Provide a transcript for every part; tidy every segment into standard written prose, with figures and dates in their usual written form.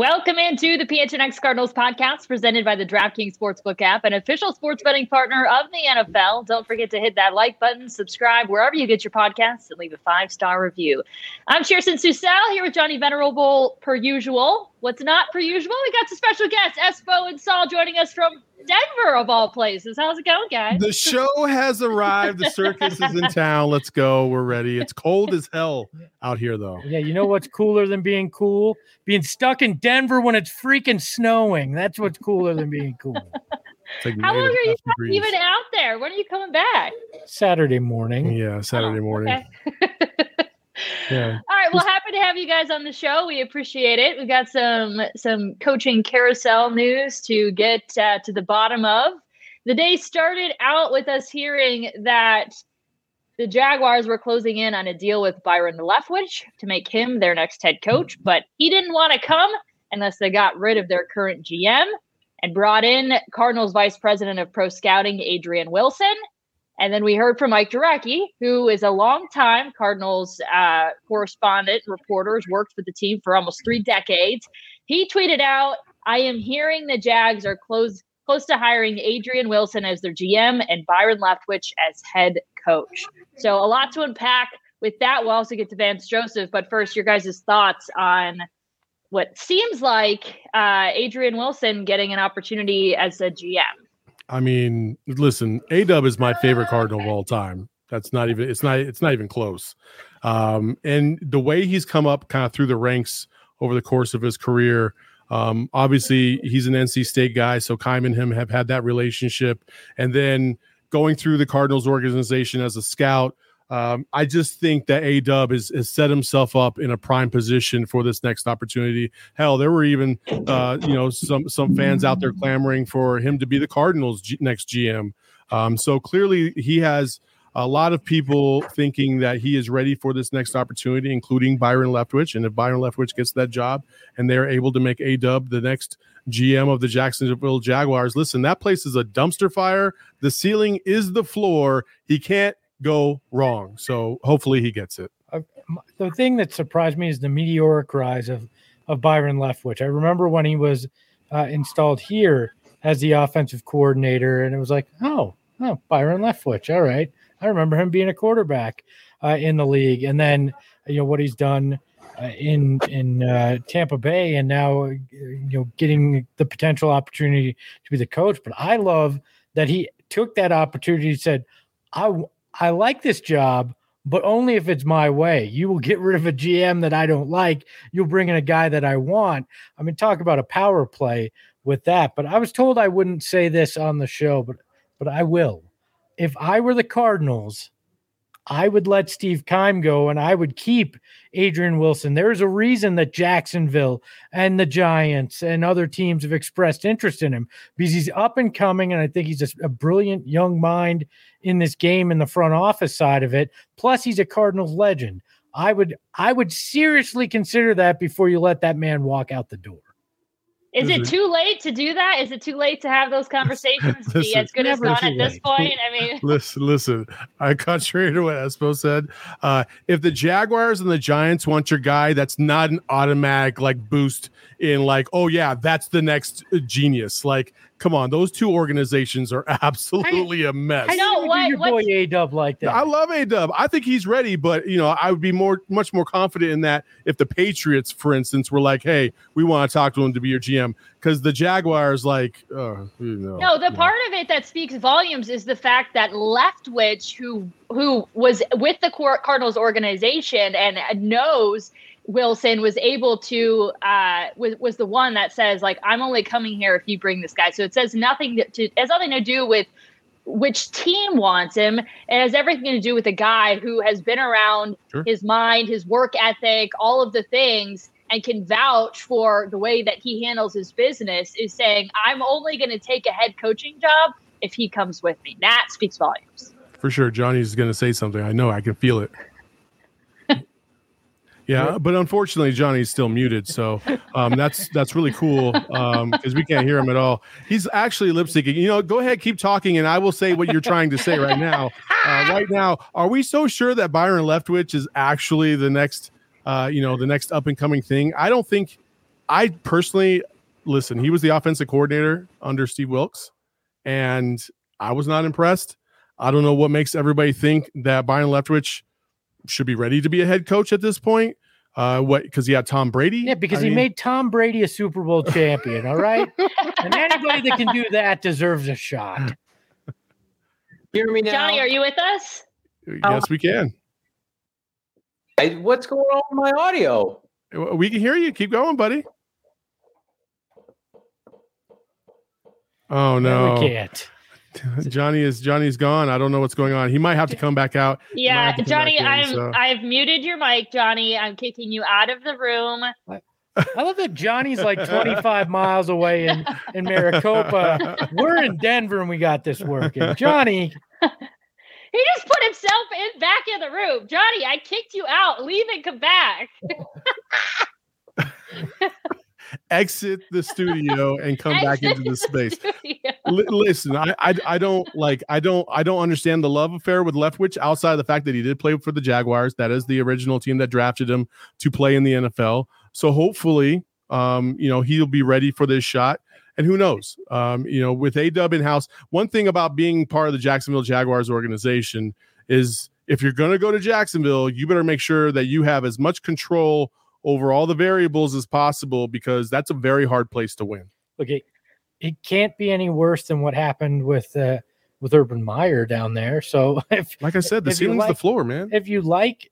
Welcome into the PHNX Cardinals podcast presented by the DraftKings Sportsbook app, an official sports betting partner of the NFL. Don't forget to hit that like button, subscribe wherever you get your podcasts, and leave a 5-star review. I'm Kirsten Susel here with Johnny Venerable per usual. What's not per usual? We got some special guests, Espo and Saul, joining us from Denver, of all places. How's it going, guys? The show has arrived. The circus is in town. Let's go. We're ready. It's cold as hell out here, though. Yeah, you know what's cooler than being cool? Being stuck in Denver when it's freaking snowing. That's what's cooler than being cool. Like how long are you even out there? When are you coming back? Saturday morning. Yeah, Saturday morning. Okay. Yeah. All right. Well, happy to have you guys on the show. We appreciate it. We've got some coaching carousel news to get to the bottom of. The day started out with us hearing that the Jaguars were closing in on a deal with Byron Leftwich to make him their next head coach, but he didn't want to come unless they got rid of their current GM and brought in Cardinals Vice President of Pro Scouting, Adrian Wilson. And then we heard from Mike Jurecki, who is a longtime Cardinals correspondent, reporter, has worked with the team for almost 3 decades. He tweeted out, I am hearing the Jags are close to hiring Adrian Wilson as their GM and Byron Leftwich as head coach. So a lot to unpack with that. We'll also get to Vance Joseph. But first, your guys' thoughts on what seems like Adrian Wilson getting an opportunity as a GM. I mean, listen, A-Dub is my favorite Cardinal of all time. It's not even close. And the way he's come up kind of through the ranks over the course of his career, obviously he's an NC State guy, so Keim and him have had that relationship. And then going through the Cardinals organization as a scout, I just think that A-Dub has set himself up in a prime position for this next opportunity. Hell, there were even some fans out there clamoring for him to be the Cardinals' next GM. So clearly he has a lot of people thinking that he is ready for this next opportunity, including Byron Leftwich. And if Byron Leftwich gets that job and they're able to make A-Dub the next GM of the Jacksonville Jaguars, listen, that place is a dumpster fire. The ceiling is the floor. He can't go wrong. So hopefully he gets it. The thing that surprised me is the meteoric rise of Byron Leftwich. I remember when he was installed here as the offensive coordinator, and it was like, oh, Byron Leftwich. All right. I remember him being a quarterback in the league. And then, what he's done in Tampa Bay, and now, getting the potential opportunity to be the coach. But I love that he took that opportunity and said, I like this job, but only if it's my way. You will get rid of a GM that I don't like. You'll bring in a guy that I want. I mean, talk about a power play with that. But I was told I wouldn't say this on the show, but I will. If I were the Cardinals, I would let Steve Keim go and I would keep Adrian Wilson. There's a reason that Jacksonville and the Giants and other teams have expressed interest in him because he's up and coming, and I think he's a brilliant young mind in this game in the front office side of it. Plus, he's a Cardinals legend. I would seriously consider that before you let that man walk out the door. Is it too late to do that? Is it too late to have those conversations? Be as good as gone at this point? I mean, listen. Contrary to what Espo said, if the Jaguars and the Giants want your guy, that's not an automatic boost in oh yeah, that's the next genius. Come on, those two organizations are absolutely a mess. I know your boy A-Dub like that. I love A-Dub. I think he's ready, but I would be much more confident in that if the Patriots, for instance, were like, "Hey, we want to talk to him to be your GM," because the Jaguars, No, the part of it that speaks volumes is the fact that Leftwich, who was with the Cardinals organization and knows Wilson, was able to was the one that says I'm only coming here if you bring this guy. So it says it has nothing to do with which team wants him. It has everything to do with a guy who has been around, sure, his mind, his work ethic, all of the things, and can vouch for the way that he handles his business, is saying, I'm only going to take a head coaching job if he comes with me. That speaks volumes. For sure. Johnny's going to say something. I know. I can feel it. Yeah, but unfortunately, Johnny's still muted, so that's really cool because we can't hear him at all. He's actually lip syncing. Go ahead, keep talking, and I will say what you're trying to say right now. Right now, are we so sure that Byron Leftwich is actually the next up and coming thing? I don't think I personally, listen, he was the offensive coordinator under Steve Wilkes, and I was not impressed. I don't know what makes everybody think that Byron Leftwich should be ready to be a head coach at this point. Because he had Tom Brady? Yeah, because he made Tom Brady a Super Bowl champion, all right? And anybody that can do that deserves a shot. Hear me now? Johnny, are you with us? Yes, we can. What's going on with my audio? We can hear you. Keep going, buddy. Oh, no. We can't. Johnny's gone. I don't know what's going on. He might have to come back out. Yeah, Johnny, I've muted your mic, Johnny. I'm kicking you out of the room. I love that Johnny's like 25 miles away in Maricopa. We're in Denver and we got this working. Johnny. He just put himself back in the room. Johnny, I kicked you out. Leave and come back. Exit the studio and come back into the space. Listen, I don't understand the love affair with Leftwich outside of the fact that he did play for the Jaguars. That is the original team that drafted him to play in the NFL. So hopefully, he'll be ready for this shot. And who knows? With A-Dub in house, one thing about being part of the Jacksonville Jaguars organization is if you're going to go to Jacksonville, you better make sure that you have as much control over all the variables as possible, because that's a very hard place to win. Okay, it can't be any worse than what happened with Urban Meyer down there. So, like I said, the ceiling's the floor, man. If you like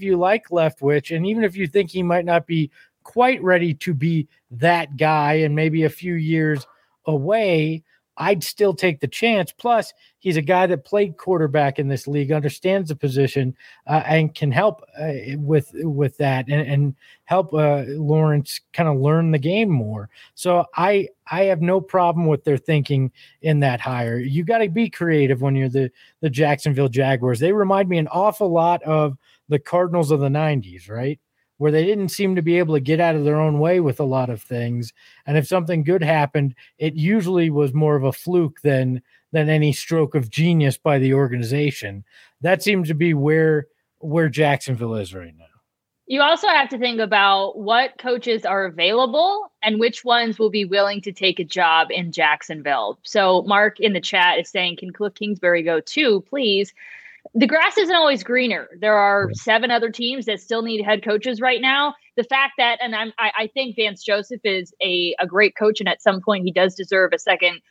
Leftwich, and even if you think he might not be quite ready to be that guy, and maybe a few years away, I'd still take the chance. Plus, he's a guy that played quarterback in this league, understands the position, and can help with that and help Lawrence kind of learn the game more. So I have no problem with their thinking in that hire. You got to be creative when you're the Jacksonville Jaguars. They remind me an awful lot of the Cardinals of the 90s, right? Where they didn't seem to be able to get out of their own way with a lot of things. And if something good happened, it usually was more of a fluke than any stroke of genius by the organization. That seems to be where Jacksonville is right now. You also have to think about what coaches are available and which ones will be willing to take a job in Jacksonville. So Mark in the chat is saying, can Cliff Kingsbury go too, please? The grass isn't always greener. There are 7 other teams that still need head coaches right now. The fact that, and I think Vance Joseph is a great coach, and at some point he does deserve a second,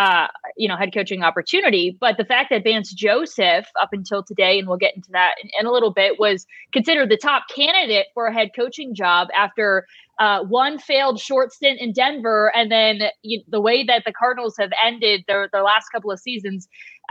head coaching opportunity. But the fact that Vance Joseph, up until today, and we'll get into that in a little bit, was considered the top candidate for a head coaching job after one failed short stint in Denver, and then the way that the Cardinals have ended their last couple of seasons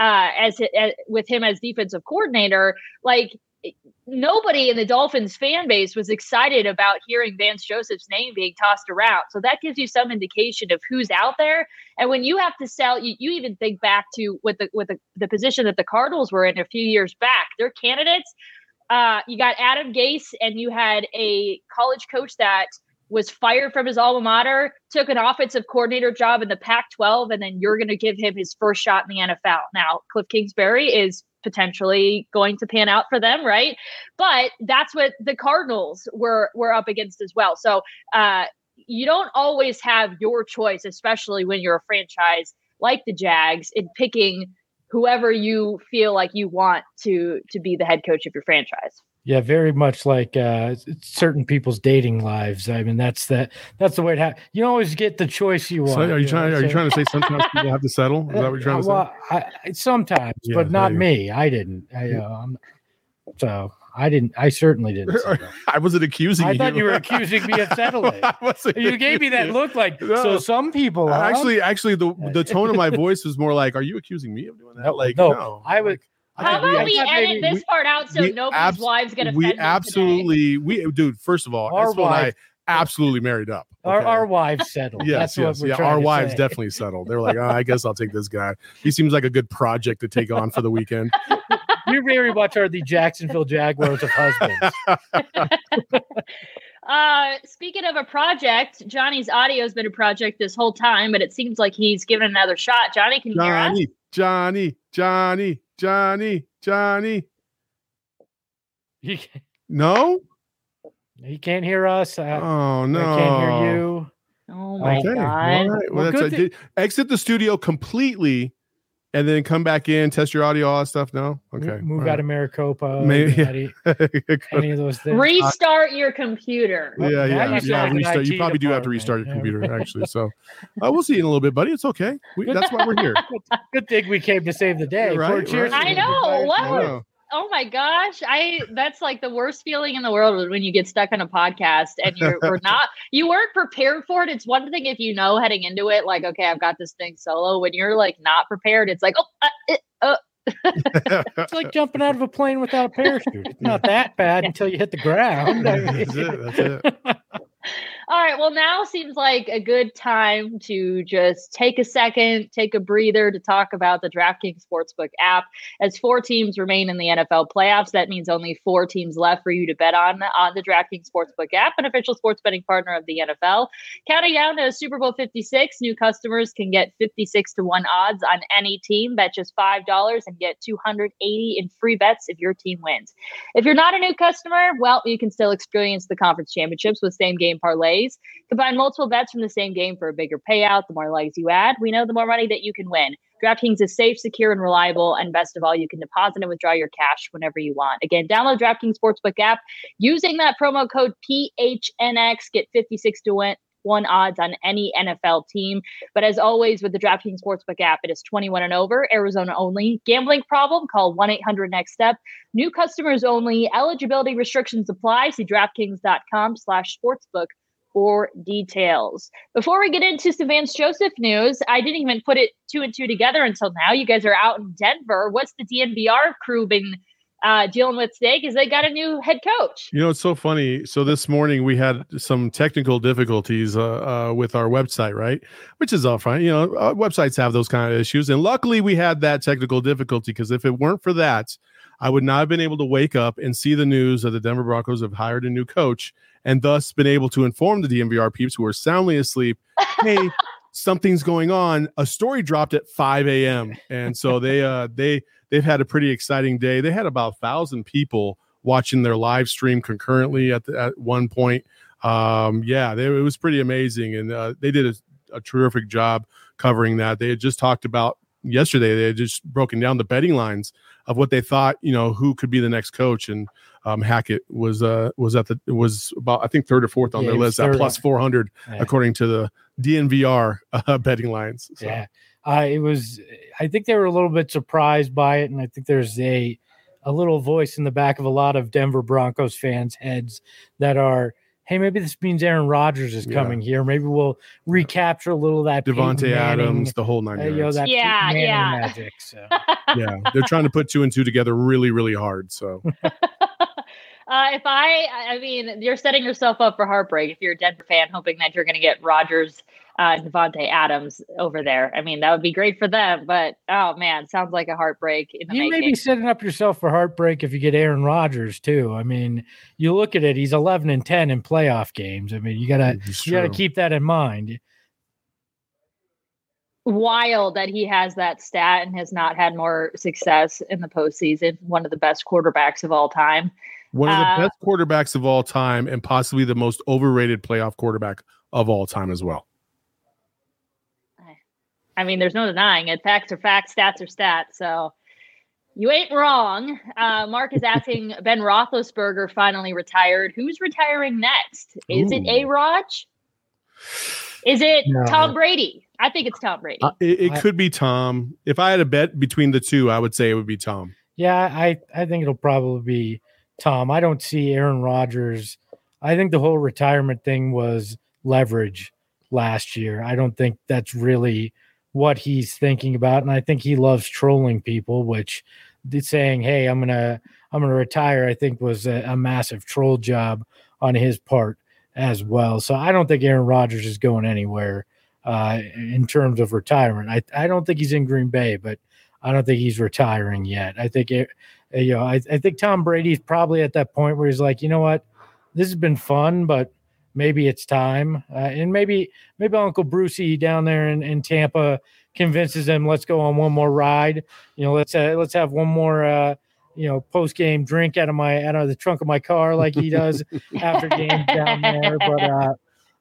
with him as defensive coordinator, like nobody in the Dolphins fan base was excited about hearing Vance Joseph's name being tossed around. So that gives you some indication of who's out there. And when you have to sell, you even think back to with the position that the Cardinals were in a few years back, their candidates. You got Adam Gase, and you had a college coach that was fired from his alma mater, took an offensive coordinator job in the Pac-12, and then you're going to give him his first shot in the NFL. Now, Cliff Kingsbury is potentially going to pan out for them, right? But that's what the Cardinals were up against as well. So you don't always have your choice, especially when you're a franchise like the Jags, in picking whoever you feel like you want to be the head coach of your franchise. Yeah, very much like certain people's dating lives. I mean, that's the way it happens. You don't always get the choice you want. So are you trying to say sometimes people have to settle? Is that what you're trying to say? Sometimes, yeah, but not me. I didn't. I certainly didn't. I wasn't accusing you. I thought you were accusing me of settling. You gave me that look like, no. So some people are. Actually, the tone of my voice was more like, are you accusing me of doing that? No. I was. How about we edit this part out so nobody's wives get offended? Dude, first of all, I absolutely married up. Okay? Our wives settled. Yes, That's what we're trying our to wives say. definitely settled. They were like, I guess I'll take this guy. He seems like a good project to take on for the weekend. You very much are the Jacksonville Jaguars of husbands. Speaking of a project, Johnny's audio has been a project this whole time, but it seems like he's given another shot. Johnny, can you hear us? Johnny. No? He can't hear us. Oh, no. I can't hear you. Oh my Okay. God. All right. Well, exit the studio completely and then come back in, test your audio, all that stuff. No? Okay. Move out of Maricopa. Maybe. Any of those things. Restart your computer. Well, now you sound like restart. an You IT probably do have to restart your department. computer, actually. So we'll see you in a little bit, buddy. It's okay. That's why we're here. Good thing we came to save the day. Right, Cheers. I know. What? I know. Oh my gosh. That's like the worst feeling in the world when you get stuck on a podcast and you weren't prepared for it. It's one thing if you know heading into it, like, okay, I've got this thing solo. When you're like not prepared, it's like, It's like jumping out of a plane without a parachute. It's not that bad until you hit the ground. That's it. All right. Well, now seems like a good time to just take a second, take a breather to talk about the DraftKings Sportsbook app. As 4 teams remain in the NFL playoffs, that means only 4 teams left for you to bet on the DraftKings Sportsbook app, an official sports betting partner of the NFL. Counting down to Super Bowl 56, new customers can get 56-1 odds on any team. Bet just $5 and get $280 in free bets if your team wins. If you're not a new customer, well, you can still experience the conference championships with same-game parlays. Combine multiple bets from the same game for a bigger payout. The more legs you add, we know the more money that you can win. DraftKings is safe, secure, and reliable. And best of all, you can deposit and withdraw your cash whenever you want. Again, download DraftKings Sportsbook app. Using that promo code PHNX, get 56-1 odds on any NFL team. But as always, with the DraftKings Sportsbook app, it is 21 and over, Arizona only. Gambling problem? Call 1-800-NEXT-STEP. New customers only. Eligibility restrictions apply. See DraftKings.com/sportsbook for details. Before we get into some Vance Joseph news, I didn't even put it 2 and 2 together until now. You guys are out in Denver. What's the DNVR crew been dealing with today? Because they got a new head coach. You know, it's so funny. So this morning we had some technical difficulties with our website, right? Which is all fine. You know, websites have those kind of issues. And luckily we had that technical difficulty, because if it weren't for that, I would not have been able to wake up and see the news that the Denver Broncos have hired a new coach, and thus been able to inform the DNVR peeps who are soundly asleep, hey, something's going on. A story dropped at 5 a.m. And so they've had a pretty exciting day. They had about 1,000 people watching their live stream concurrently at one point. It was pretty amazing. And they did a terrific job covering that. They had just talked about yesterday, they had just broken down the betting lines of what they thought, you know, who could be the next coach. And Hackett was about, I think, 3rd or 4th on their list at plus 400, according to the DNVR betting lines. So. Yeah, I think they were a little bit surprised by it. And I think there's a little voice in the back of a lot of Denver Broncos fans' heads that are, hey, maybe this means Aaron Rodgers is coming here. Maybe we'll recapture a little of that Devontae Adams, the whole 9 yards. Magic. So. Yeah, they're trying to put 2 and 2 together really, really hard. So, I mean, you're setting yourself up for heartbreak if you're a Denver fan, hoping that you're going to get Rodgers, Devontae Adams over there. I mean, that would be great for them, but oh man, sounds like a heartbreak in the making. You may be setting up yourself for heartbreak if you get Aaron Rodgers too. I mean, you look at it; he's 11 and 10 in playoff games. I mean, you gotta keep that in mind. Wild that he has that stat and has not had more success in the postseason. One of the best quarterbacks of all time. One of the best quarterbacks of all time, and possibly the most overrated playoff quarterback of all time as well. I mean, there's no denying it. Facts are facts, stats are stats. So you ain't wrong. Mark is asking, Ben Roethlisberger finally retired. Who's retiring next? Is it A-Rod? Is it Tom Brady? I think it's Tom Brady. It could be Tom. If I had a bet between the two, I would say it would be Tom. Yeah, I think it'll probably be Tom. I don't see Aaron Rodgers. I think the whole retirement thing was leverage last year. I don't think that's really what he's thinking about. And I think he loves trolling people, which saying, hey, I'm gonna retire, I think was a massive troll job on his part as well. So I don't think Aaron Rodgers is going anywhere in terms of retirement. I don't think he's in Green Bay, but I don't think he's retiring yet. I think I think Tom Brady's probably at that point where he's like, you know what, this has been fun, but maybe it's time. And maybe Uncle Brucey down there in Tampa convinces him, let's go on one more ride. You know, let's have one more post-game drink out of the trunk of my car like he does after games down there. But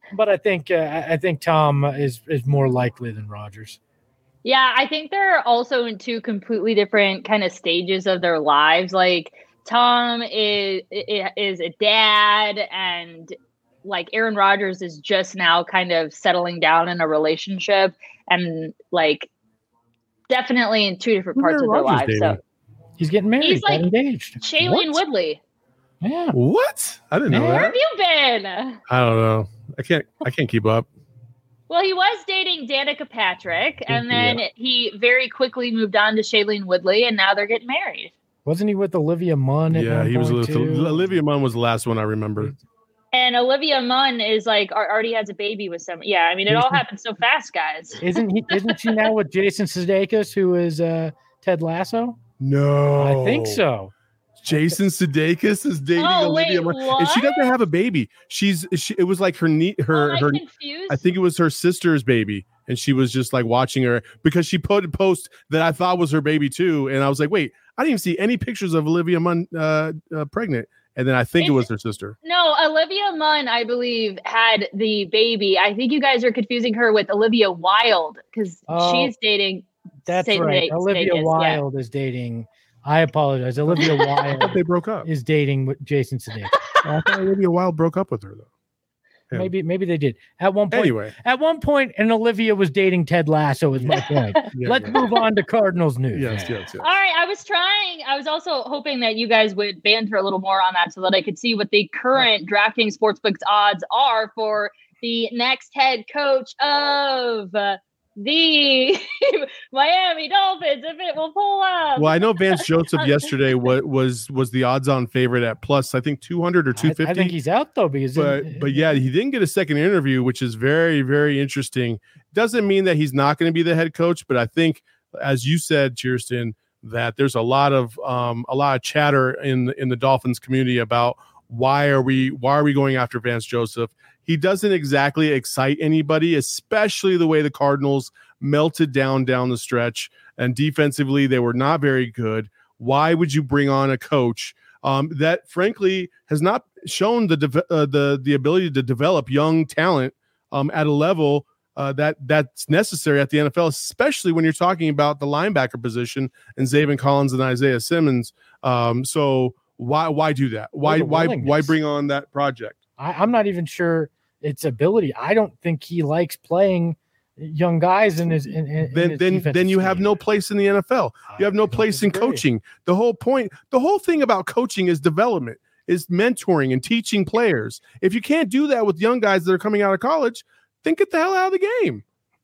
But I think Tom is more likely than Rodgers. Yeah, I think they're also in two completely different kind of stages of their lives. Like Tom is a dad, and like Aaron Rodgers is just now kind of settling down in a relationship, and like definitely in two different parts of their lives. Dating? So he's getting married. He's like engaged. Shailene Woodley. Yeah. What? I didn't know Where that. have you been? I don't know. I can't keep up. Well, he was dating Danica Patrick, and then he very quickly moved on to Shailene Woodley, and now they're getting married. Wasn't he with Olivia Munn? Yeah, he was with Olivia Munn was the last one I remember. And Olivia Munn is like already has a baby with some. Yeah, I mean, it all happened so fast, guys. Isn't she now with Jason Sudeikis, who is Ted Lasso? No, I think so. Jason Sudeikis is dating Olivia Munn, and she doesn't have a baby. It was like her confused? I think it was her sister's baby, and she was just like watching her because she put a post that I thought was her baby too, and I was like, wait, I didn't even see any pictures of Olivia Munn pregnant, and then I think it was her sister. No, Olivia Munn, I believe, had the baby. I think you guys are confusing her with Olivia Wilde because she's dating. That's right. Olivia Wilde is dating. I apologize. Olivia Wilde. They broke up. Is dating with Jason Sudeikis. I thought Olivia Wilde broke up with her though. Yeah. Maybe they did at one point. Anyway, at one point, and Olivia was dating Ted Lasso. Is my point. Let's move on to Cardinals news. Yes. All right. I was also hoping that you guys would banter a little more on that so that I could see what the current DraftKings Sportsbook's odds are for the next head coach of the Miami Dolphins, if it will pull up. Well, I know Vance Joseph yesterday was the odds-on favorite at plus, I think 200 or 250. I think he's out though because but yeah, he didn't get a second interview, which is very, very interesting. Doesn't mean that he's not going to be the head coach, but I think, as you said, Kirsten, that there's a lot of chatter in the Dolphins community about why are we going after Vance Joseph. He doesn't exactly excite anybody, especially the way the Cardinals melted down the stretch, and defensively they were not very good. Why would you bring on a coach that frankly has not shown the ability to develop young talent at a level that's necessary at the NFL, especially when you're talking about the linebacker position and Zaven Collins and Isaiah Simmons. So why do that? Why bring on that project? I'm not even sure its ability. I don't think he likes playing young guys in his. Then you have no place in the NFL. You have no place in coaching. The whole thing about coaching is development, is mentoring and teaching players. If you can't do that with young guys that are coming out of college, then get the hell out of the game.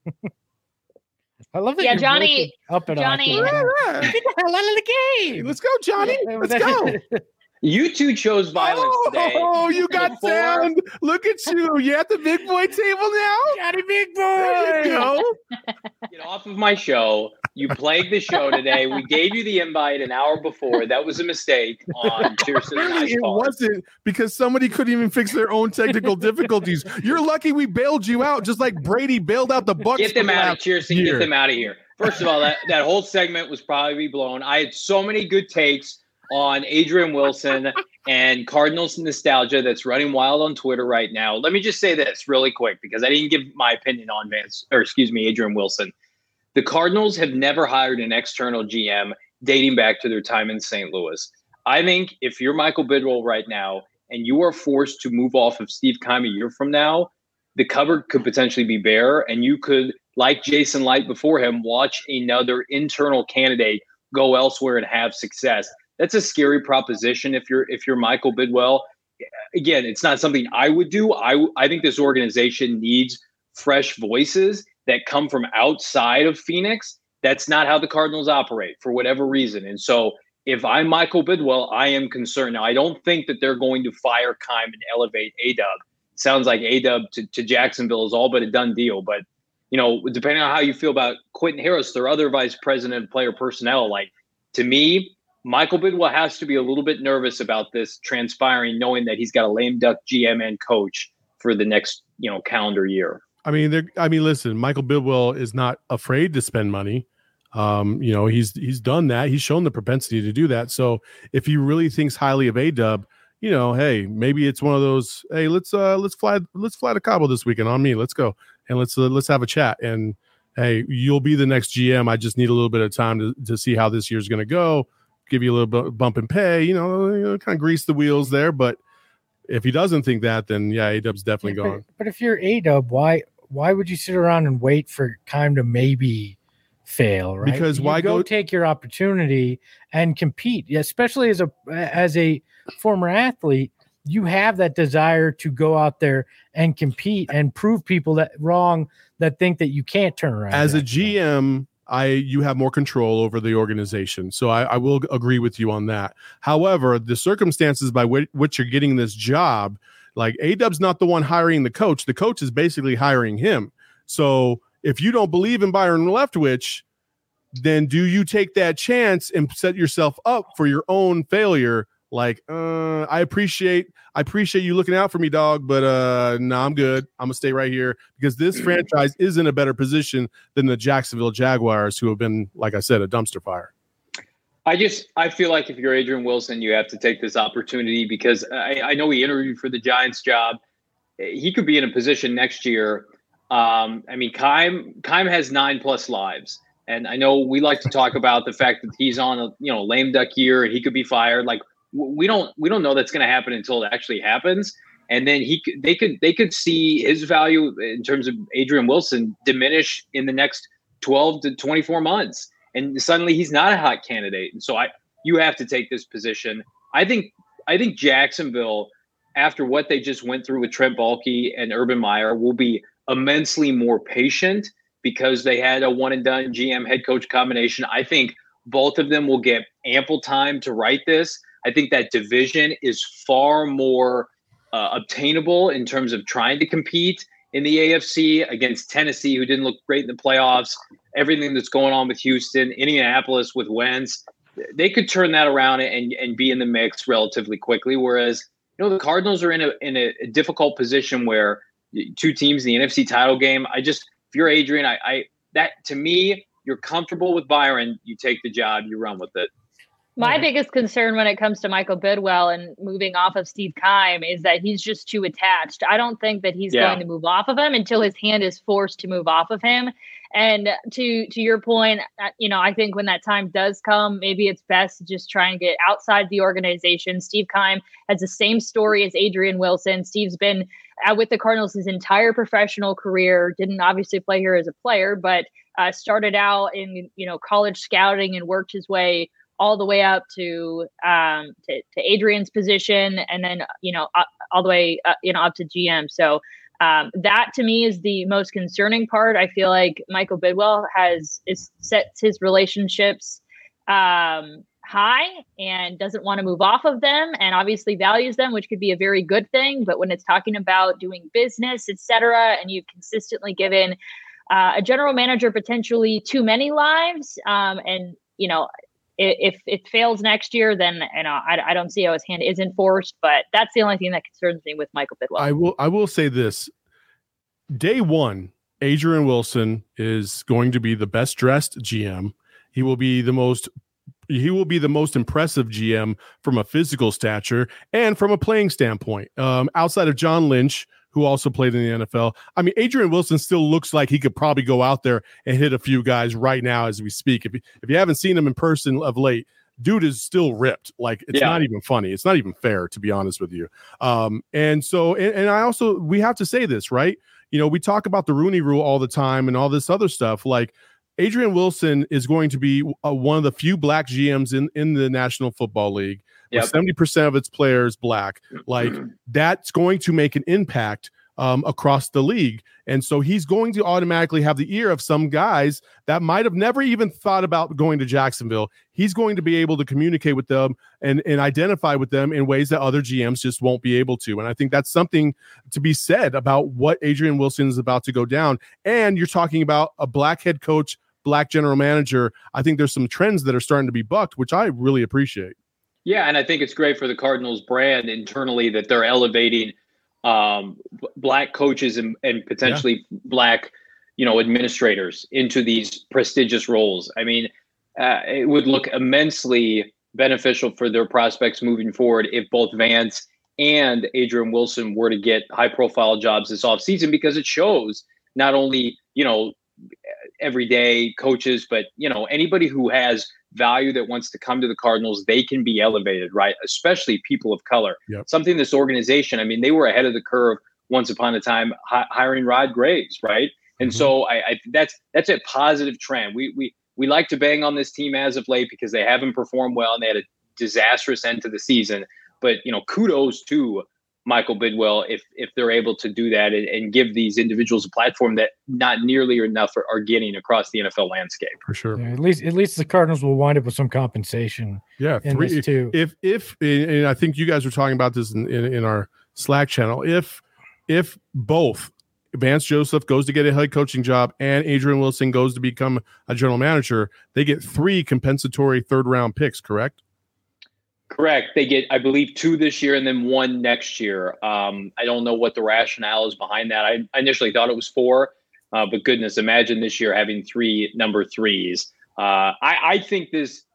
I love that. Yeah, Johnny. Up and Johnny. Get the hell out of the game. Let's go, Johnny. Let's go. You two chose violence today. Oh, you got sound. Look at you. You're at the big boy table now? Johnny Big Boy. There you go. Get off of my show. You plagued the show today. We gave you the invite an hour before. That was a mistake on Kirsten and I's It part. wasn't because somebody couldn't even fix their own technical difficulties. You're lucky we bailed you out, just like Brady bailed out the Bucs. Get them out of Kirsten. Get them out of here. First of all, that whole segment was probably blown. I had so many good takes on Adrian Wilson and Cardinals nostalgia that's running wild on Twitter right now. Let me just say this really quick because I didn't give my opinion on Adrian Wilson. The Cardinals have never hired an external GM dating back to their time in St. Louis. I think if you're Michael Bidwell right now and you are forced to move off of Steve Keim a year from now, the cupboard could potentially be bare, and you could, like Jason Light before him, watch another internal candidate go elsewhere and have success. That's a scary proposition if you're Michael Bidwell. Again, it's not something I would do. I think this organization needs fresh voices that come from outside of Phoenix. That's not how the Cardinals operate for whatever reason. And so if I'm Michael Bidwell, I am concerned. Now, I don't think that they're going to fire Keim and elevate A-Dub. Sounds like A-Dub to Jacksonville is all but a done deal. But, depending on how you feel about Quentin Harris, their other vice president of player personnel, to me, Michael Bidwell has to be a little bit nervous about this transpiring, knowing that he's got a lame duck GM and coach for the next, calendar year. Listen, Michael Bidwell is not afraid to spend money. He's done that. He's shown the propensity to do that. So if he really thinks highly of A-Dub, hey, maybe it's one of those, hey, let's fly to Cabo this weekend on me. Let's go. And let's have a chat. And hey, you'll be the next GM. I just need a little bit of time to see how this year's going to go. Give you a little bump in pay, kind of grease the wheels there. But if he doesn't think that, then yeah, A-Dub's definitely gone. But if you're A-Dub, why would you sit around and wait for Keim to maybe fail, right? Because why go take your opportunity and compete, especially as a former athlete. You have that desire to go out there and compete and prove people that wrong that think that you can't turn around. As a GM, you have more control over the organization. So I will agree with you on that. However, the circumstances by which you're getting this job, like A-Dub's not the one hiring the coach. The coach is basically hiring him. So if you don't believe in Byron Leftwich, then do you take that chance and set yourself up for your own failure? Like, I appreciate you looking out for me, dog, but no, I'm good. I'm gonna stay right here because this franchise is in a better position than the Jacksonville Jaguars, who have been, like I said, a dumpster fire. I feel like if you're Adrian Wilson, you have to take this opportunity because I know he interviewed for the Giants job. He could be in a position next year. Keim has 9+ lives. And I know we like to talk about the fact that he's on a lame duck year and he could be fired. Like, we don't know that's going to happen until it actually happens. And then they could see his value in terms of Adrian Wilson diminish in the next 12 to 24 months. And suddenly he's not a hot candidate. And so you have to take this position. I think Jacksonville, after what they just went through with Trent Baalke and Urban Meyer, will be immensely more patient because they had a one and done GM head coach combination. I think both of them will get ample time to write this. I think that division is far more obtainable in terms of trying to compete in the AFC against Tennessee, who didn't look great in the playoffs. Everything that's going on with Houston, Indianapolis with Wentz, they could turn that around and be in the mix relatively quickly. Whereas, the Cardinals are in a difficult position where two teams in the NFC title game. If you're Adrian, that to me, you're comfortable with Byron, you take the job, you run with it. My biggest concern when it comes to Michael Bidwell and moving off of Steve Keim is that he's just too attached. I don't think that he's going to move off of him until his hand is forced to move off of him. And to your point, I think when that time does come, maybe it's best to just try and get outside the organization. Steve Keim has the same story as Adrian Wilson. Steve's been with the Cardinals his entire professional career, didn't obviously play here as a player, but started out in, college scouting and worked his way all the way up to Adrian's position, and then all the way up to GM. So that to me is the most concerning part. I feel like Michael Bidwell sets his relationships high and doesn't want to move off of them, and obviously values them, which could be a very good thing. But when it's talking about doing business, etc., and you've consistently given a general manager potentially too many lives, and if it fails next year, then I don't see how his hand is enforced. But that's the only thing that concerns me with Michael Bidwell. I will say this: day one, Adrian Wilson is going to be the best dressed GM. He will be the most impressive GM from a physical stature and from a playing standpoint. Outside of John Lynch, who also played in the NFL. I mean, Adrian Wilson still looks like he could probably go out there and hit a few guys right now as we speak. If you haven't seen him in person of late, dude is still ripped. Like, it's not even funny. It's not even fair, to be honest with you. And I also, we have to say this, right? We talk about the Rooney Rule all the time and all this other stuff. Like, Adrian Wilson is going to be one of the few black GMs in the National Football League. With 70% of its players black. Like, that's going to make an impact across the league. And so he's going to automatically have the ear of some guys that might have never even thought about going to Jacksonville. He's going to be able to communicate with them and identify with them in ways that other GMs just won't be able to. And I think that's something to be said about what Adrian Wilson is about to go down. And you're talking about a black head coach, black general manager. I think there's some trends that are starting to be bucked, which I really appreciate. Yeah, and I think it's great for the Cardinals brand internally that they're elevating black coaches and potentially black, administrators into these prestigious roles. I mean, it would look immensely beneficial for their prospects moving forward if both Vance and Adrian Wilson were to get high-profile jobs this offseason, because it shows not only, everyday coaches, but, anybody who has value that wants to come to the Cardinals, they can be elevated, right? Especially people of color. Yep. Something this organization, they were ahead of the curve once upon a time, hiring Rod Graves, right? And so that's a positive trend. We like to bang on this team as of late because they haven't performed well and they had a disastrous end to the season. But, kudos to Michael Bidwell if they're able to do that and give these individuals a platform that not nearly enough are getting across the NFL landscape. For sure. Yeah, at least the Cardinals will wind up with some compensation. Yeah, this too. If and I think you guys were talking about this in our Slack channel. If both Vance Joseph goes to get a head coaching job and Adrian Wilson goes to become a general manager, they get 3 compensatory 3rd-round picks, correct? Correct. They get, I believe, 2 this year and then 1 next year. I don't know what the rationale is behind that. I initially thought it was 4, but goodness, imagine this year having 3 number 3s. I think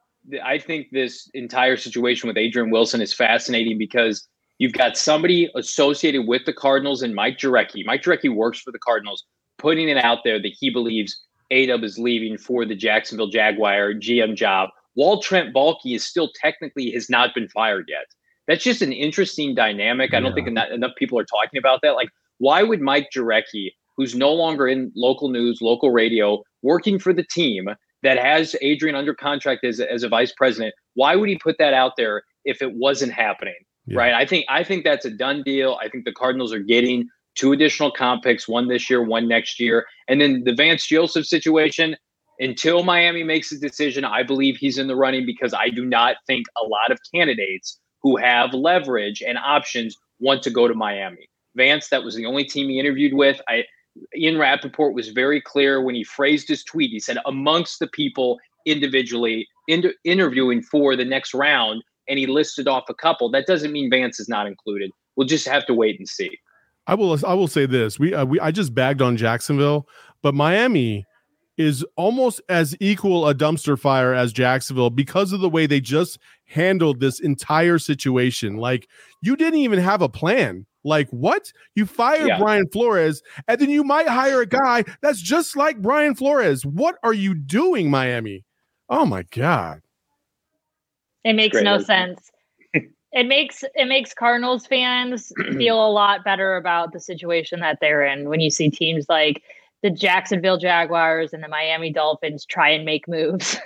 this entire situation with Adrian Wilson is fascinating because you've got somebody associated with the Cardinals and Mike Jurecki. Mike Jurecki works for the Cardinals, putting it out there that he believes A-Dub is leaving for the Jacksonville Jaguar GM job, while Trent Baalke is still technically has not been fired yet. That's just an interesting dynamic. I don't think enough people are talking about that. Like, why would Mike Jurecki, who's no longer in local news, local radio, working for the team that has Adrian under contract as a vice president, why would he put that out there if it wasn't happening? Yeah. Right. I think that's a done deal. I think the Cardinals are getting 2 additional comp picks, 1 this year, 1 next year. And then the Vance Joseph situation, until Miami makes a decision, I believe he's in the running because I do not think a lot of candidates who have leverage and options want to go to Miami. Vance, that was the only team he interviewed with. Ian Rappaport was very clear when he phrased his tweet. He said, amongst the people individually interviewing for the next round, and he listed off a couple. That doesn't mean Vance is not included. We'll just have to wait and see. I will say this. I just bagged on Jacksonville, but Miami is almost as equal a dumpster fire as Jacksonville because of the way they just handled this entire situation. Like, you didn't even have a plan. Like, what? You fired Brian Flores, and then you might hire a guy that's just like Brian Flores. What are you doing, Miami? Oh my God. It makes no sense. It makes Cardinals fans feel a lot better about the situation that they're in when you see teams like the Jacksonville Jaguars and the Miami Dolphins try and make moves.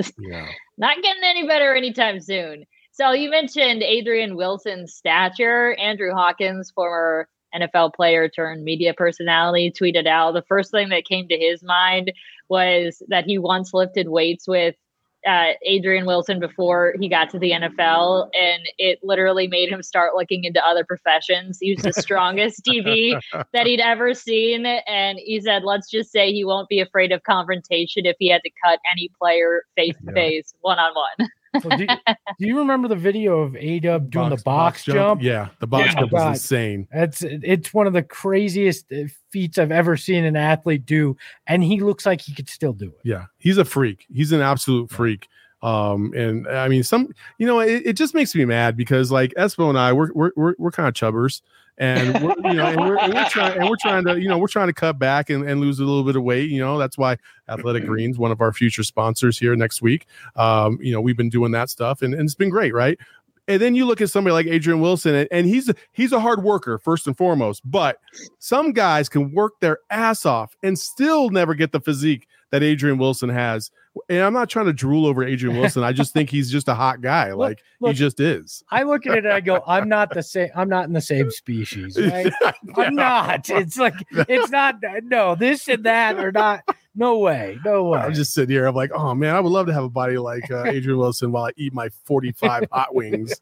Not getting any better anytime soon. So you mentioned Adrian Wilson's stature. Andrew Hawkins, former NFL player turned media personality, tweeted out the first thing that came to his mind was that he once lifted weights with Adrian Wilson before he got to the NFL, and it literally made him start looking into other professions. He was the strongest DB that he'd ever seen, and he said, let's just say he won't be afraid of confrontation if he had to cut any player face-to-face, one-on-one. So do you remember the video of A-Dub doing the box jump? Yeah, the box jump was insane. It's one of the craziest feats I've ever seen an athlete do, and he looks like he could still do it. Yeah, he's a freak. He's an absolute freak. And I mean, it just makes me mad because like Espo and I, we're kind of chubbers, and we're trying to cut back and lose a little bit of weight. That's why Athletic Greens, one of our future sponsors here next week, we've been doing that stuff, and it's been great, right? And then you look at somebody like Adrian Wilson, and he's a hard worker first and foremost, but some guys can work their ass off and still never get the physique that Adrian Wilson has. And I'm not trying to drool over Adrian Wilson. I just think he's just a hot guy. Look, he just is. I look at it and I go, I'm not in the same species, right? I'm not. It's like, it's not, no, this and that are not, no way. I'm just sitting here. I'm like, oh man, I would love to have a body like Adrian Wilson while I eat my 45 hot wings.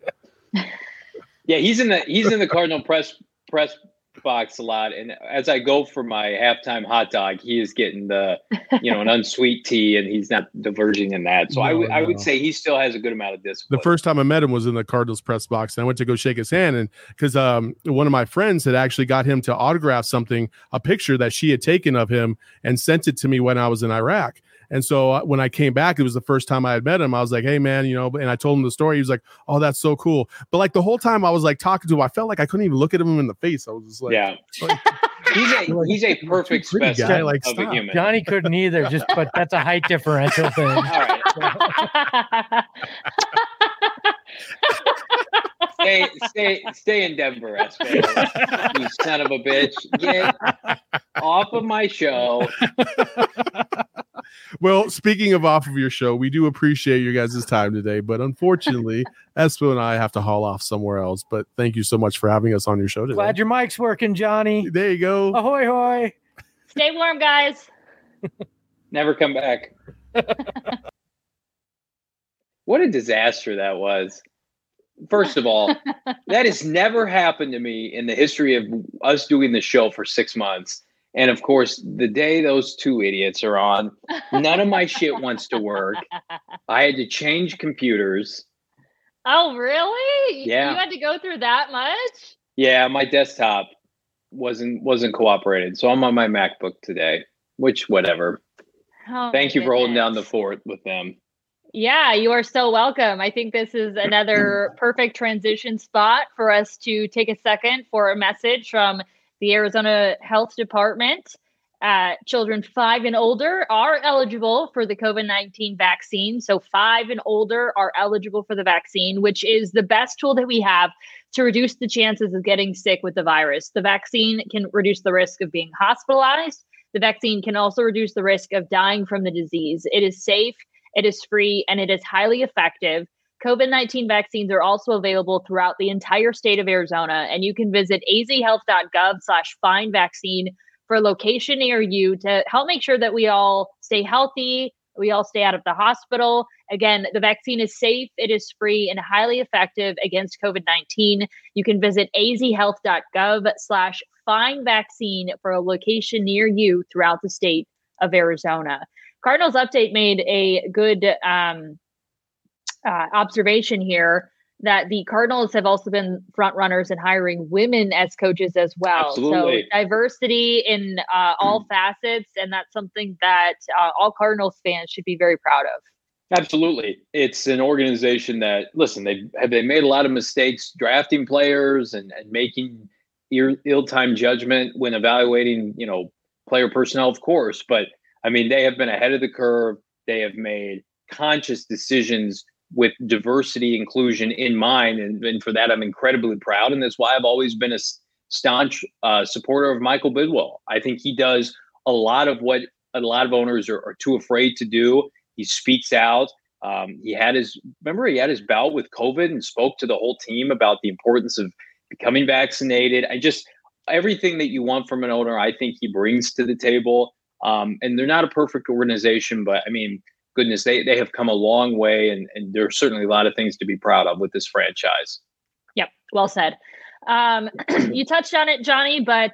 Yeah, he's in the Cardinal press box a lot, and as I go for my halftime hot dog, he is getting the an unsweet tea, and he's not diverging in that. So I would say he still has a good amount of discipline. The first time I met him was in the Cardinals press box, and I went to go shake his hand, and because one of my friends had actually got him to autograph a picture that she had taken of him and sent it to me when I was in Iraq. And so when I came back, it was the first time I had met him. I was like, hey man, and I told him the story. He was like, oh, that's so cool. But like the whole time I was like talking to him, I felt like I couldn't even look at him in the face. I was just like, yeah. He's a perfect specimen of a human. Johnny couldn't either, but that's a height differential thing. All right. Stay in Denver, Espo. You son of a bitch. Get off of my show. Well, speaking of off of your show, we do appreciate your guys' time today, but unfortunately, Espo and I have to haul off somewhere else. But thank you so much for having us on your show today. Glad your mic's working, Johnny. There you go. Ahoy, hoy. Stay warm, guys. Never come back. What a disaster that was. First of all, that has never happened to me in the history of us doing the show for 6 months. And of course, the day those two idiots are on, none of my shit wants to work. I had to change computers. Oh, really? Yeah. You had to go through that much? Yeah, my desktop wasn't cooperating. So I'm on my MacBook today, which whatever. Oh, thank you for holding down the fort with them. Yeah, you are so welcome. I think this is another perfect transition spot for us to take a second for a message from the Arizona Health Department. Children 5 and older are eligible for the COVID-19 vaccine. So 5 and older are eligible for the vaccine, which is the best tool that we have to reduce the chances of getting sick with the virus. The vaccine can reduce the risk of being hospitalized. The vaccine can also reduce the risk of dying from the disease. It is safe, it is free, and it is highly effective. COVID-19 vaccines are also available throughout the entire state of Arizona, and you can visit azhealth.gov/findvaccine for a location near you to help make sure that we all stay healthy, we all stay out of the hospital. Again, the vaccine is safe, it is free, and highly effective against COVID-19. You can visit azhealth.gov/findvaccine for a location near you throughout the state of Arizona. Cardinals Update made a good observation here that the Cardinals have also been front runners in hiring women as coaches as well. Absolutely. So diversity in all facets, and that's something that all Cardinals fans should be very proud of. Absolutely. It's an organization that, listen, they made a lot of mistakes drafting players and making ill-timed judgment when evaluating, player personnel, of course. But, I mean, they have been ahead of the curve. They have made conscious decisions with diversity, inclusion in mind. And for that, I'm incredibly proud. And that's why I've always been a staunch supporter of Michael Bidwell. I think he does a lot of what a lot of owners are too afraid to do. He speaks out. He had his bout with COVID and spoke to the whole team about the importance of becoming vaccinated. Everything that you want from an owner, I think he brings to the table. And they're not a perfect organization, but I mean, goodness, they have come a long way, and there's certainly a lot of things to be proud of with this franchise. Yep, well said. You touched on it, Johnny, but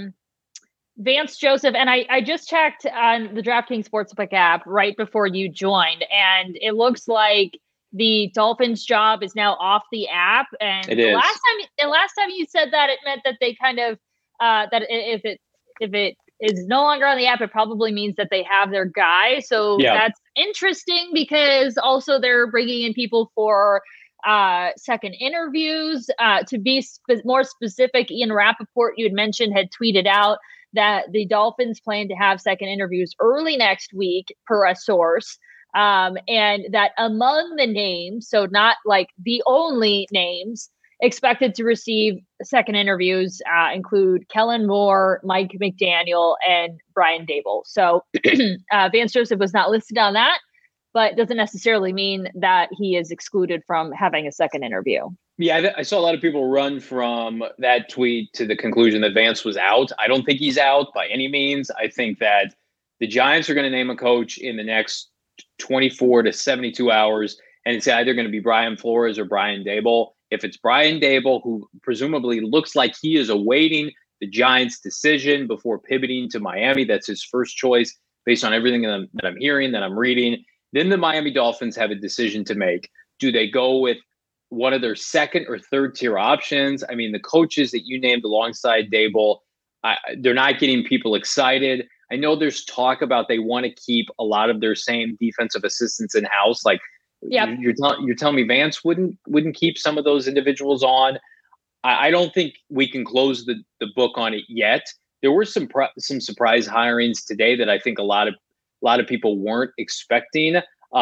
Vance Joseph, and I just checked on the DraftKings Sportsbook app right before you joined, and it looks like the Dolphins job is now off the app. And it is. Last time you said that, it meant that they kind of that if it is no longer on the app, it probably means that they have their guy. So That's interesting, because also they're bringing in people for second interviews. To be more specific, Ian Rappaport, you had mentioned, had tweeted out that the Dolphins plan to have second interviews early next week, per a source. And that among the names, so not like the only names expected to receive second interviews, include Kellen Moore, Mike McDaniel, and Brian Daboll. So Vance Joseph was not listed on that, but doesn't necessarily mean that he is excluded from having a second interview. Yeah, I saw a lot of people run from that tweet to the conclusion that Vance was out. I don't think he's out by any means. I think that the Giants are going to name a coach in the next 24 to 72 hours, and it's either going to be Brian Flores or Brian Daboll. If it's Brian Daboll, who presumably looks like he is awaiting the Giants' decision before pivoting to Miami, that's his first choice based on everything that I'm hearing, that I'm reading, then the Miami Dolphins have a decision to make. Do they go with one of their second or third tier options? I mean, the coaches that you named alongside Daboll, they're not getting people excited. I know there's talk about they want to keep a lot of their same defensive assistants in house. Like, you're telling me Vance wouldn't keep some of those individuals on. I don't think we can close the book on it yet. There were some surprise hirings today that I think a lot of people weren't expecting.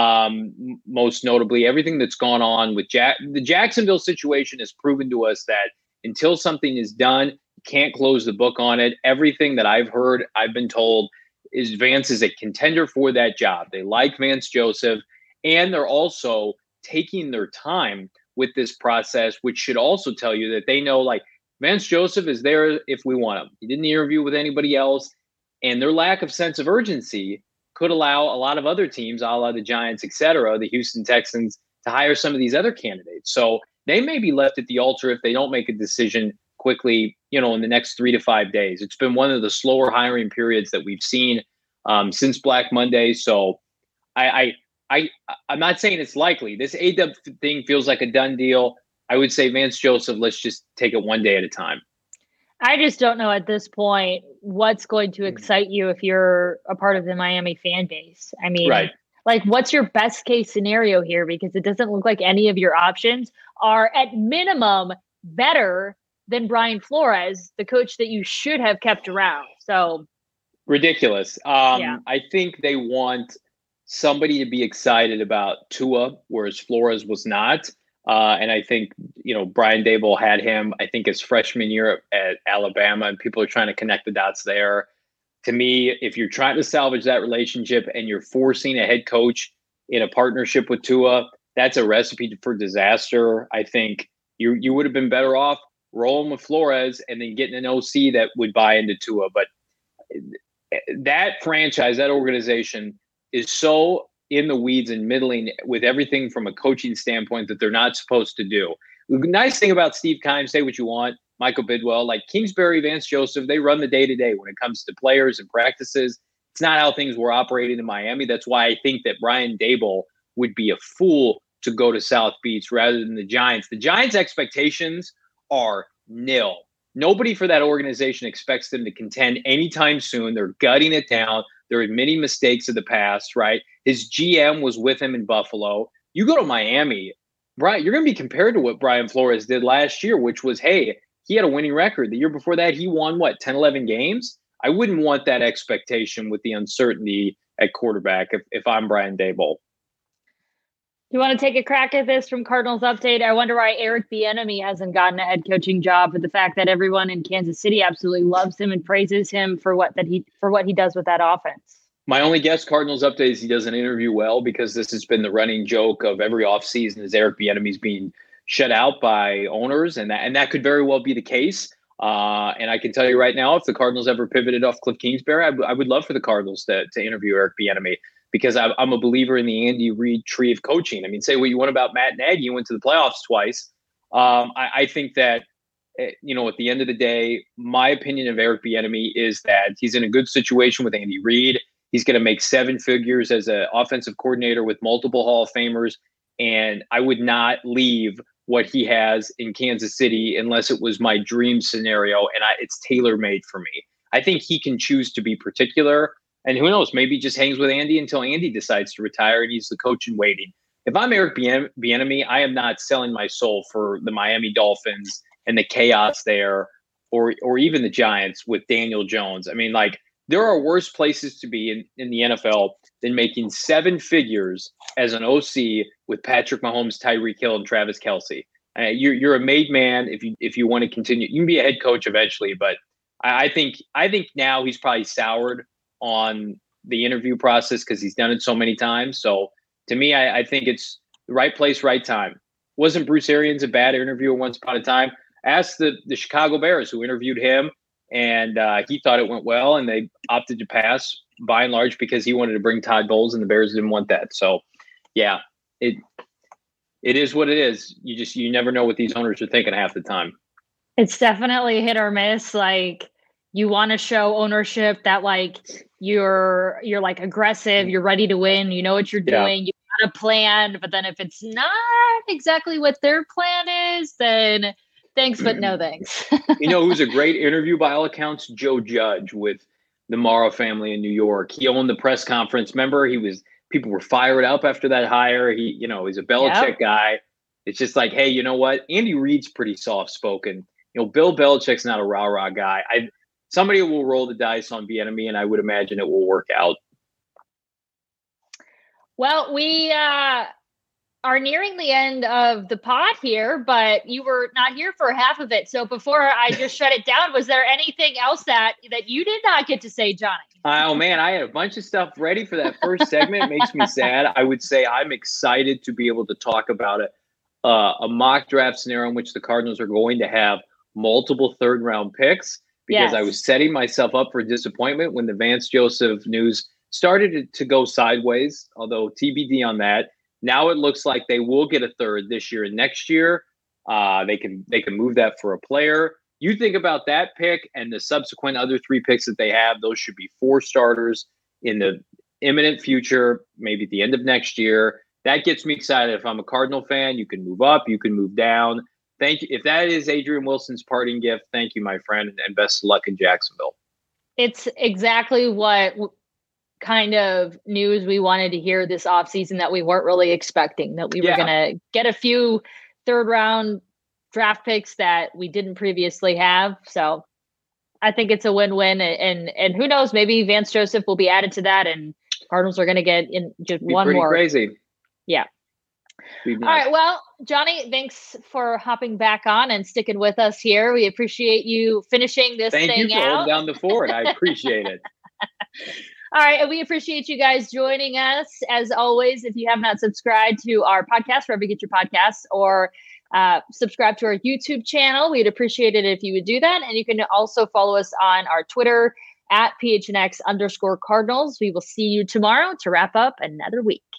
Most notably, everything that's gone on with the Jacksonville situation has proven to us that until something is done, you can't close the book on it. Everything that I've heard, I've been told, is Vance is a contender for that job. They like Vance Joseph, and they're also taking their time with this process, which should also tell you that they know, like, Vance Joseph is there if we want him. He didn't interview with anybody else, and their lack of sense of urgency could allow a lot of other teams, a la the Giants, et cetera, the Houston Texans, to hire some of these other candidates. So they may be left at the altar if they don't make a decision quickly, in the next 3 to 5 days. It's been one of the slower hiring periods that we've seen since Black Monday. So I'm not saying it's likely. This A-Dub thing feels like a done deal. I would say Vance Joseph, let's just take it one day at a time. I just don't know at this point what's going to excite you if you're a part of the Miami fan base. I mean, right. Like, what's your best case scenario here? Because it doesn't look like any of your options are at minimum better than Brian Flores, the coach that you should have kept around. So ridiculous. I think they want somebody to be excited about Tua, whereas Flores was not. And I think, Brian Daboll had him, I think, his freshman year at Alabama, and people are trying to connect the dots there. To me, if you're trying to salvage that relationship and you're forcing a head coach in a partnership with Tua, that's a recipe for disaster. I think you would have been better off rolling with Flores and then getting an OC that would buy into Tua. But that franchise, that organization is so in the weeds and middling with everything from a coaching standpoint that they're not supposed to do. The nice thing about Steve Keim, say what you want, Michael Bidwell, like Kingsbury, Vance Joseph, they run the day-to-day when it comes to players and practices. It's not how things were operating in Miami. That's why I think that Brian Daboll would be a fool to go to South Beach rather than the Giants. The Giants' expectations are nil. Nobody for that organization expects them to contend anytime soon. They're gutting it down. They're admitting mistakes of the past, right? His GM was with him in Buffalo. You go to Miami, Brian, you're going to be compared to what Brian Flores did last year, which was, hey, he had a winning record. The year before that, he won, 10, 11 games? I wouldn't want that expectation with the uncertainty at quarterback if I'm Brian Daboll. Do you want to take a crack at this from Cardinals Update? I wonder why Eric Bieniemy hasn't gotten a head coaching job, with the fact that everyone in Kansas City absolutely loves him and praises him for what he does with that offense. My only guess, Cardinals Update, is he doesn't interview well, because this has been the running joke of every offseason is Eric Bieniemy's being shut out by owners, and that could very well be the case. And I can tell you right now, if the Cardinals ever pivoted off Cliff Kingsbury, I would love for the Cardinals to interview Eric Bieniemy, because I'm a believer in the Andy Reid tree of coaching. I mean, say what you want about Matt Nagy, he went to the playoffs twice. I think that, at the end of the day, my opinion of Eric Bieniemy is that he's in a good situation with Andy Reid. He's going to make 7 figures as an offensive coordinator with multiple Hall of Famers. And I would not leave what he has in Kansas City unless it was my dream scenario, and it's tailor-made for me. I think he can choose to be particular. And who knows, maybe he just hangs with Andy until Andy decides to retire and he's the coach in waiting. If I'm Eric Bieniemy, I am not selling my soul for the Miami Dolphins and the chaos there, or even the Giants with Daniel Jones. I mean, there are worse places to be in the NFL than making 7 figures as an OC with Patrick Mahomes, Tyreek Hill, and Travis Kelce. You're a made man if you want to continue. You can be a head coach eventually, but I think now he's probably soured on the interview process because he's done it so many times. So to me, I think it's the right place, right time. Wasn't Bruce Arians a bad interviewer once upon a time? Ask the Chicago Bears, who interviewed him, and he thought it went well, and they opted to pass by and large because he wanted to bring Todd Bowles, and the Bears didn't want that. So, yeah, it is what it is. You never know what these owners are thinking half the time. It's definitely hit or miss. You want to show ownership that you're aggressive, you're ready to win, you know what you're doing, you got a plan. But then if it's not exactly what their plan is, then thanks, but no thanks. Who's a great interview by all accounts? Joe Judge with the Mara family in New York. He owned the press conference. Remember, people were fired up after that hire. He's a Belichick guy. It's just like, hey, you know what? Andy Reid's pretty soft spoken. Bill Belichick's not a rah-rah guy. Somebody will roll the dice on Bieniemy, and I would imagine it will work out. Well, we are nearing the end of the pod here, but you were not here for half of it. So before I just shut it down, was there anything else that you did not get to say, Johnny? Oh, man, I had a bunch of stuff ready for that first segment. It makes me sad. I would say I'm excited to be able to talk about it. A mock draft scenario in which the Cardinals are going to have multiple third-round picks, because I was setting myself up for disappointment when the Vance Joseph news started to go sideways, although TBD on that. Now it looks like they will get a third this year and next year. They can move that for a player. You think about that pick and the subsequent other 3 picks that they have. Those should be 4 starters in the imminent future, maybe at the end of next year. That gets me excited. If I'm a Cardinal fan, you can move up, you can move down. Thank you. If that is Adrian Wilson's parting gift, thank you, my friend, and best of luck in Jacksonville. It's exactly what kind of news we wanted to hear this offseason that we weren't really expecting, that we were going to get a few third-round draft picks that we didn't previously have. So I think it's a win-win. And who knows, maybe Vance Joseph will be added to that, and Cardinals are going to get in just one more. Crazy. Yeah. Nice. All right. Well, Johnny, thanks for hopping back on and sticking with us here. We appreciate you finishing this thing out. Thank you for holding down the fort. I appreciate it. All right. And we appreciate you guys joining us. As always, if you have not subscribed to our podcast, wherever you get your podcasts, or subscribe to our YouTube channel, we'd appreciate it if you would do that. And you can also follow us on our Twitter at PHNX_Cardinals. We will see you tomorrow to wrap up another week.